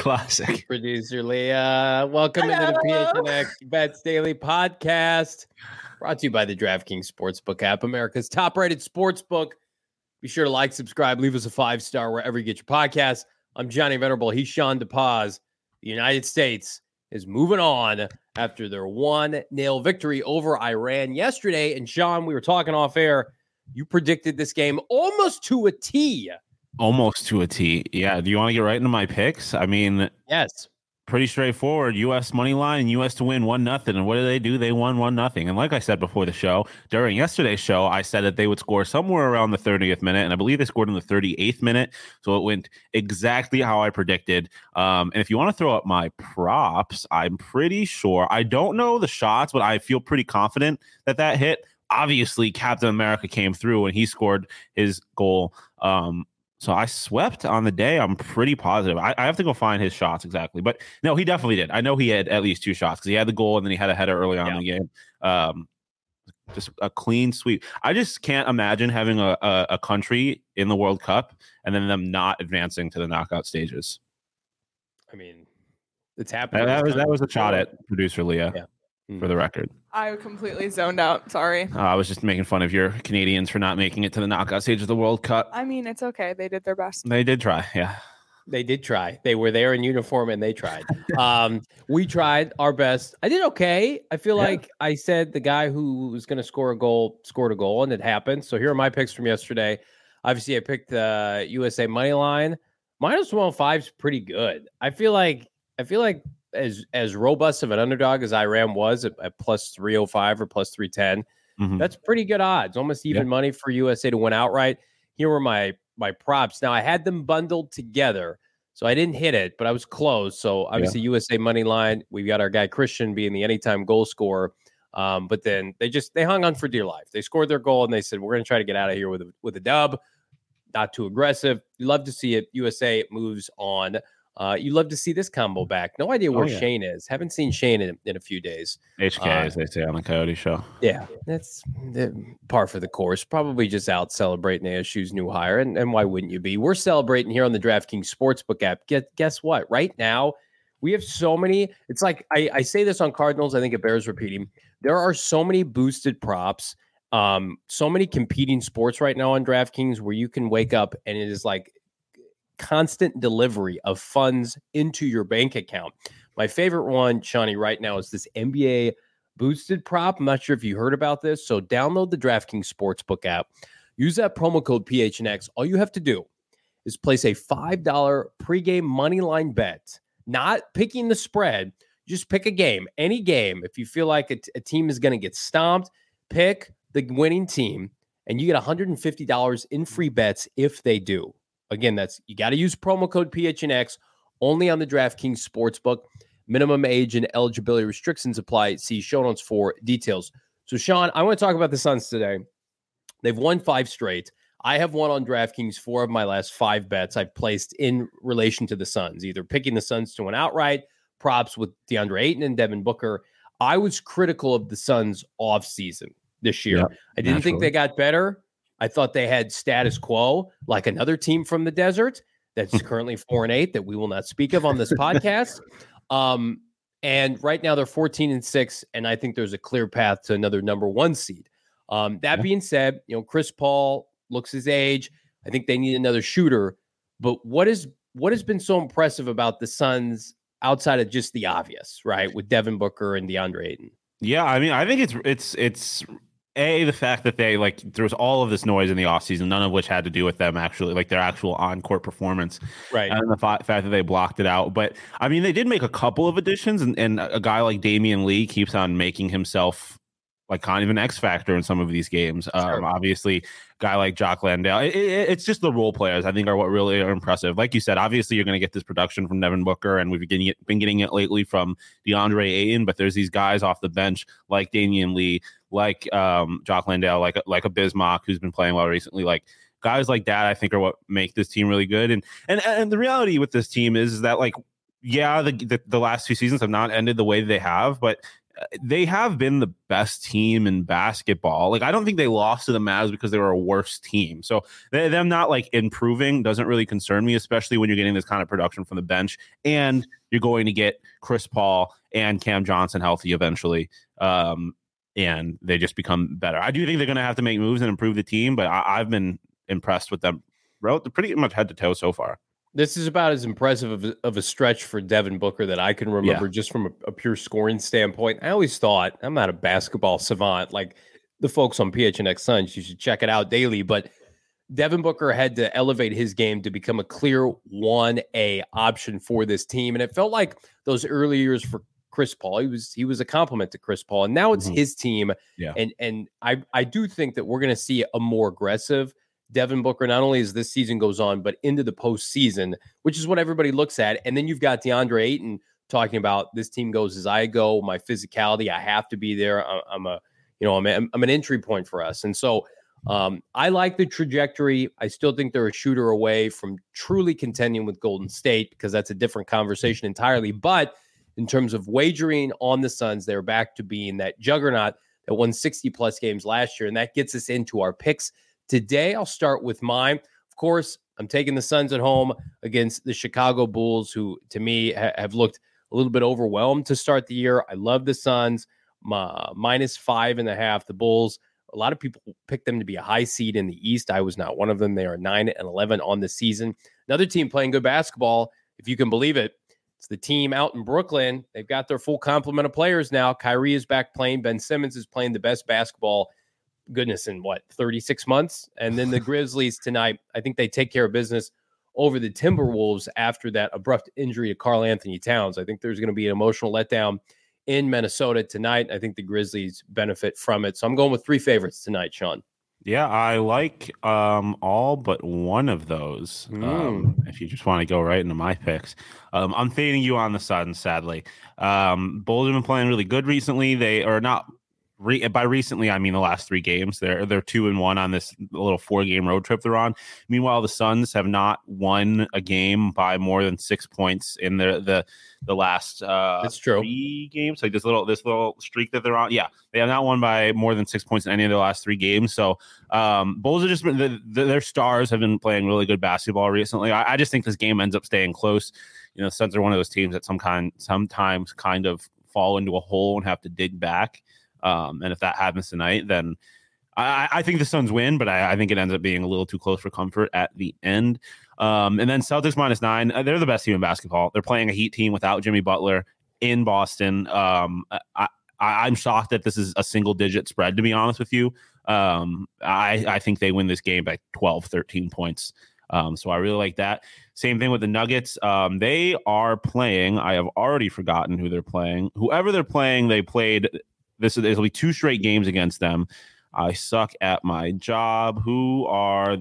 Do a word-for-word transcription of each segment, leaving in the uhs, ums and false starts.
classic. Producer Leah, welcome Hello. into the P H N X Bets Daily Podcast, brought to you by the DraftKings Sportsbook app, America's top-rated sportsbook. Be sure to like, subscribe, leave us a five-star wherever you get your podcasts. I'm Johnny Venerable. He's Sean DePaz. The United States is moving on after their one nil victory over Iran yesterday. And Sean, we were talking off air. You predicted this game almost to a T. Almost to a T. Yeah. Do you want to get right into my picks? I mean, yes. Pretty straightforward. U S money line and U S to win one nothing. And what did they do? They won one nothing. And like I said before the show, during yesterday's show, I said that they would score somewhere around the thirtieth minute, and I believe they scored in the thirty-eighth minute. So it went exactly how I predicted. Um, and if you want to throw up my props, I'm pretty sure. I don't know the shots, but I feel pretty confident that that hit. Obviously, Captain America came through and he scored his goal. Um, So I swept on the day. I'm pretty positive. I, I have to go find his shots exactly. But no, he definitely did. I know he had at least two shots because he had the goal and then he had a header early on yeah. in the game. Um, just a clean sweep. I just can't imagine having a, a, a country in the World Cup and then them not advancing to the knockout stages. I mean, it's happening. That, that, was, that was a shot at producer Leah, yeah. mm-hmm. for the record. I completely zoned out. Sorry. Uh, I was just making fun of your Canadians for not making it to the knockout stage of the World Cup. I mean, it's okay. They did their best. They did try. Yeah. They did try. They were there in uniform and they tried. um, we tried our best. I did okay. I feel yeah. like I said the guy who was going to score a goal scored a goal, and it happened. So here are my picks from yesterday. Obviously, I picked the uh, U S A money line. Minus one oh five is pretty good. I feel like I feel like as as robust of an underdog as Iran was at, at plus three oh five or plus three ten, mm-hmm. that's pretty good odds. Almost even yep. money for U S A to win outright. Here were my my props. Now I had them bundled together, so I didn't hit it, but I was close. So obviously yeah. U S A money line. We've got our guy Christian being the anytime goal scorer. Um, but then they just they hung on for dear life. They scored their goal and they said, we're going to try to get out of here with a, with a dub. Not too aggressive. You love to see it. U S A moves on. Uh, you love to see this combo back. No idea where oh, yeah. Shane is. Haven't seen Shane in, in a few days. H K, uh, as they say on the Coyote Show. Yeah, that's uh, par for the course. Probably just out celebrating A S U's new hire. And, and why wouldn't you be? We're celebrating here on the DraftKings Sportsbook app. Get, guess what? Right now, we have so many. It's like I, I say this on Cardinals. I think it bears repeating. There are so many boosted props. Um, so many competing sports right now on DraftKings where you can wake up and it is like constant delivery of funds into your bank account. My favorite one, Shawnee, right now is this N B A boosted prop. I'm not sure if you heard about this. So download the DraftKings Sportsbook app. Use that promo code P H N X. All you have to do is place a five dollars pregame money line bet, not picking the spread. Just pick a game, any game. If you feel like a, t- a team is going to get stomped, pick the winning team, and you get one hundred fifty dollars in free bets if they do. Again, that's you got to use promo code P H N X only on the DraftKings Sportsbook. Minimum age and eligibility restrictions apply. See show notes for details. So, Sean, I want to talk about the Suns today. They've won five straight. I have won on DraftKings four of my last five bets I've placed in relation to the Suns, either picking the Suns to win outright, props with DeAndre Ayton and Devin Booker. I was critical of the Suns offseason this year. Yep, I didn't naturally. think they got better. I thought they had status quo, like another team from the desert that's currently four and eight that we will not speak of on this podcast. Um, and right now they're fourteen and six, and I think there's a clear path to another number one seed. Um, that yeah. being said, you know, Chris Paul looks his age. I think they need another shooter. But what is what has been so impressive about the Suns outside of just the obvious, right, with Devin Booker and DeAndre Ayton? Yeah, I mean, I think it's it's it's. A, the fact that they, like, there was all of this noise in the offseason, none of which had to do with them actually, like their actual on-court performance. Right. And the fa- fact that they blocked it out. But, I mean, they did make a couple of additions, and, and a guy like Damian Lee keeps on making himself, like, kind of an X factor in some of these games. Sure. Um, obviously, guy like Jock Landale. It, it, it's just the role players, I think, are what really are impressive. Like you said, obviously, you're going to get this production from Devin Booker, and we've been getting, it, been getting it lately from DeAndre Ayton, but there's these guys off the bench like Damian Lee, like um, Jock Landale, like, like a Bismarck who's been playing well recently. Like, guys like that, I think, are what make this team really good. And and and the reality with this team is that, like, yeah, the, the, the last two seasons have not ended the way they have, but they have been the best team in basketball. Like, I don't think they lost to the Mavs because they were a worse team. So they, them not like improving doesn't really concern me, especially when you're getting this kind of production from the bench and you're going to get Chris Paul and Cam Johnson healthy eventually. Um, and they just become better. I do think they're going to have to make moves and improve the team, but I, I've been impressed with them pretty much head to toe so far. This is about as impressive of a, of a stretch for Devin Booker that I can remember, yeah. just from a, a pure scoring standpoint. I always thought, I'm not a basketball savant like the folks on P H N X Suns. You should check it out daily. But Devin Booker had to elevate his game to become a clear one A option for this team. And it felt like those early years for Chris Paul, he was he was a compliment to Chris Paul. And now it's mm-hmm. his team. Yeah. And, and I, I do think that we're going to see a more aggressive Devin Booker, not only as this season goes on, but into the postseason, which is what everybody looks at. And then you've got DeAndre Ayton talking about this team goes as I go, my physicality, I have to be there. I'm a, you know, I'm, a, I'm an entry point for us. And so um, I like the trajectory. I still think they're a shooter away from truly contending with Golden State because that's a different conversation entirely. But in terms of wagering on the Suns, they're back to being that juggernaut that won sixty plus games last year. And that gets us into our picks. Today, I'll start with mine. Of course, I'm taking the Suns at home against the Chicago Bulls, who, to me, ha- have looked a little bit overwhelmed to start the year. I love the Suns, my, minus five and a half. The Bulls, a lot of people picked them to be a high seed in the East. I was not one of them. They are nine and eleven on the season. Another team playing good basketball, if you can believe it. It's the team out in Brooklyn. They've got their full complement of players now. Kyrie is back playing. Ben Simmons is playing the best basketball goodness in what thirty-six months. And then the Grizzlies tonight, I think they take care of business over the Timberwolves after that abrupt injury to Karl Anthony Towns. I think there's going to be an emotional letdown in Minnesota tonight. I think the Grizzlies benefit from it. So I'm going with three favorites tonight, Sean. Yeah, I like um, all but one of those. Mm. Um, if you just want to go right into my picks, um, I'm fading you on the Suns, sadly. Um, Bulls have been playing really good recently. They are not Re- by recently, I mean the last three games. They're they're two and one on this little four game road trip they're on. Meanwhile, the Suns have not won a game by more than six points in the the the last uh, That's true. three games. Like this little this little streak that they're on. Yeah, they have not won by more than six points in any of the last three games. So um, Bulls are just been the, the, their stars have been playing really good basketball recently. I, I just think this game ends up staying close. You know, the Suns are one of those teams that some kind sometimes kind of fall into a hole and have to dig back. Um, and if that happens tonight, then I, I think the Suns win, but I, I think it ends up being a little too close for comfort at the end. Um, and then Celtics minus nine. Uh, they're the best team in basketball. They're playing a Heat team without Jimmy Butler in Boston. Um, I, I, I'm shocked that this is a single digit spread, to be honest with you. Um, I, I think they win this game by twelve, thirteen points. Um, so I really like that. Same thing with the Nuggets. Um, they are playing. I have already forgotten who they're playing. Whoever they're playing, they played. This is, it'll be two straight games against them. I suck at my job. Who are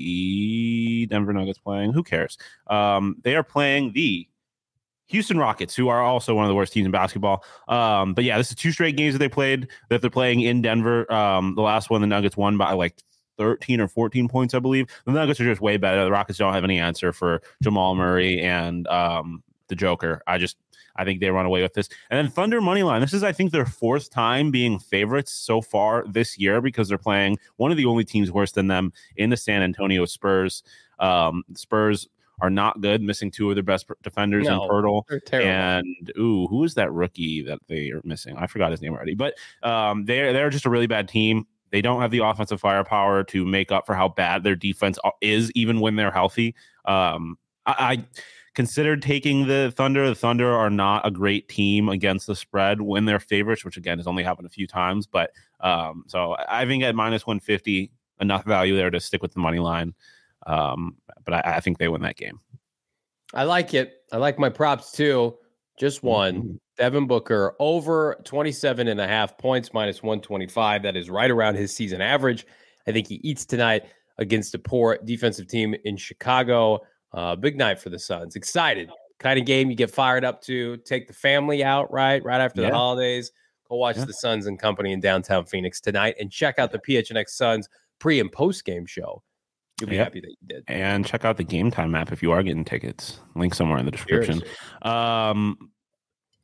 the Denver Nuggets playing? Who cares? Um, they are playing the Houston Rockets, who are also one of the worst teams in basketball. Um, but yeah, this is two straight games that they played that they're playing in Denver. Um, the last one, the Nuggets won by like thirteen or fourteen points, I believe. The Nuggets are just way better. The Rockets don't have any answer for Jamal Murray and um, the Joker. I just, I think they run away with this. And then Thunder money line. This is, I think, their fourth time being favorites so far this year because they're playing one of the only teams worse than them in the San Antonio Spurs. Um, Spurs are not good, missing two of their best defenders no, in Pirtle. They're terrible. And ooh, who is that rookie that they are missing? I forgot his name already. But um, they're they're just a really bad team. They don't have the offensive firepower to make up for how bad their defense is, even when they're healthy. Um, I, I considered taking the Thunder. The Thunder are not a great team against the spread when they're favorites, which again has only happened a few times. But um, so I think at minus one fifty, enough value there to stick with the money line. Um, but I, I think they win that game. I like it. I like my props too. Just one. Mm-hmm. Devin Booker over twenty-seven and a half points, minus one twenty-five. That is right around his season average. I think he eats tonight against a poor defensive team in Chicago. Uh, big night for the Suns. Excited. Kind of game you get fired up to. Take the family out, right? Right after yeah. the holidays. Go watch yeah. the Suns and Company in downtown Phoenix tonight and check out the P H N X Suns pre and post game show. You'll be yep. happy that you did. And check out the Game Time app if you are getting tickets. Link somewhere in the description. Um,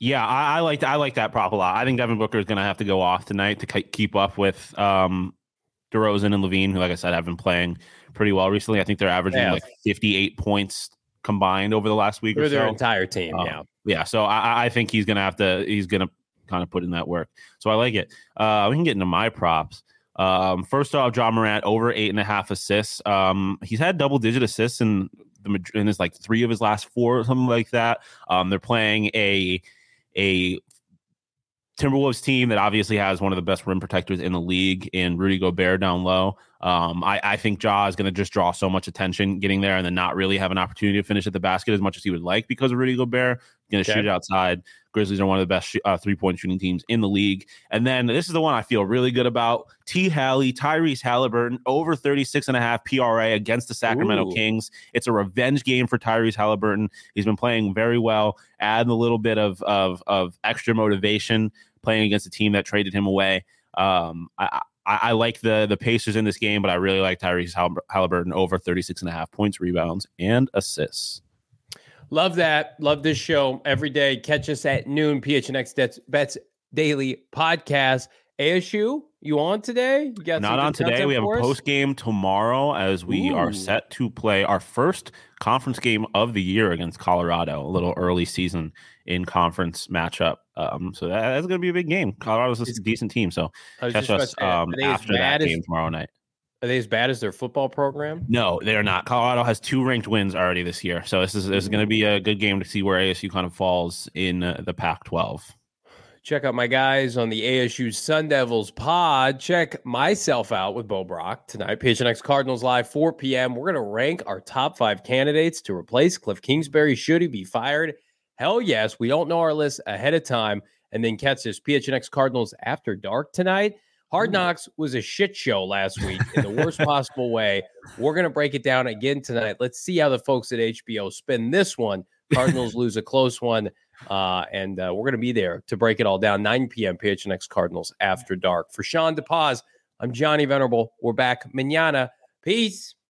Yeah, I, I like I like that prop a lot. I think Devin Booker is going to have to go off tonight to k- keep up with um, DeRozan and Levine, who, like I said, have been playing pretty well recently. I think they're averaging Yeah. like fifty-eight points combined over the last week They're or so. their entire team, Uh, yeah. Yeah, so I, I think he's going to have to he's going to kind of put in that work. So I like it. Uh, we can get into my props. Um, first off, John Morant over eight and a half assists. Um, he's had double digit assists in the in his like three of his last four or something like that. Um, they're playing a a Timberwolves team that obviously has one of the best rim protectors in the league in Rudy Gobert down low. Um, I, I think Ja is going to just draw so much attention getting there and then not really have an opportunity to finish at the basket as much as he would like because of Rudy Gobert. Going to Okay. shoot it outside. Grizzlies are one of the best sh- uh, three-point shooting teams in the league. And then this is the one I feel really good about. T. Halley, Tyrese Halliburton, over thirty-six and a half P R A against the Sacramento Ooh. Kings. It's a revenge game for Tyrese Halliburton. He's been playing very well, adding a little bit of, of, of extra motivation playing against a team that traded him away. Um, I, I, I like the the Pacers in this game, but I really like Tyrese Hall- Halliburton over thirty-six and a half points, rebounds, and assists. Love that. Love this show every day. Catch us at noon. P H N X Bets, Bets Daily Podcast. A S U, you on today? You got Not some on good today. content We have for a us? post game tomorrow as we Ooh. are set to play our first conference game of the year against Colorado. A little early season in conference matchup. Um, so that, that's going to be a big game. Colorado's a decent team. So I was catch just about us to say, are um, they as after that bad as- game tomorrow night. Are they as bad as their football program? No, they're not. Colorado has two ranked wins already this year. So this is, this is going to be a good game to see where A S U kind of falls in uh, the Pac twelve. Check out my guys on the A S U Sun Devils pod. Check myself out with Bo Brock tonight. P H N X Cardinals Live, four p.m. We're going to rank our top five candidates to replace Cliff Kingsbury. Should he be fired? Hell yes. We don't know our list ahead of time. And then catch this P H N X Cardinals After Dark tonight. Hard Knocks was a shit show last week in the worst possible way. We're going to break it down again tonight. Let's see how the folks at H B O spin this one. Cardinals lose a close one. Uh, and uh, we're going to be there to break it all down. nine p.m. P H N X Cardinals After Dark. For Sean DePaz, I'm Johnny Venerable. We're back mañana. Peace.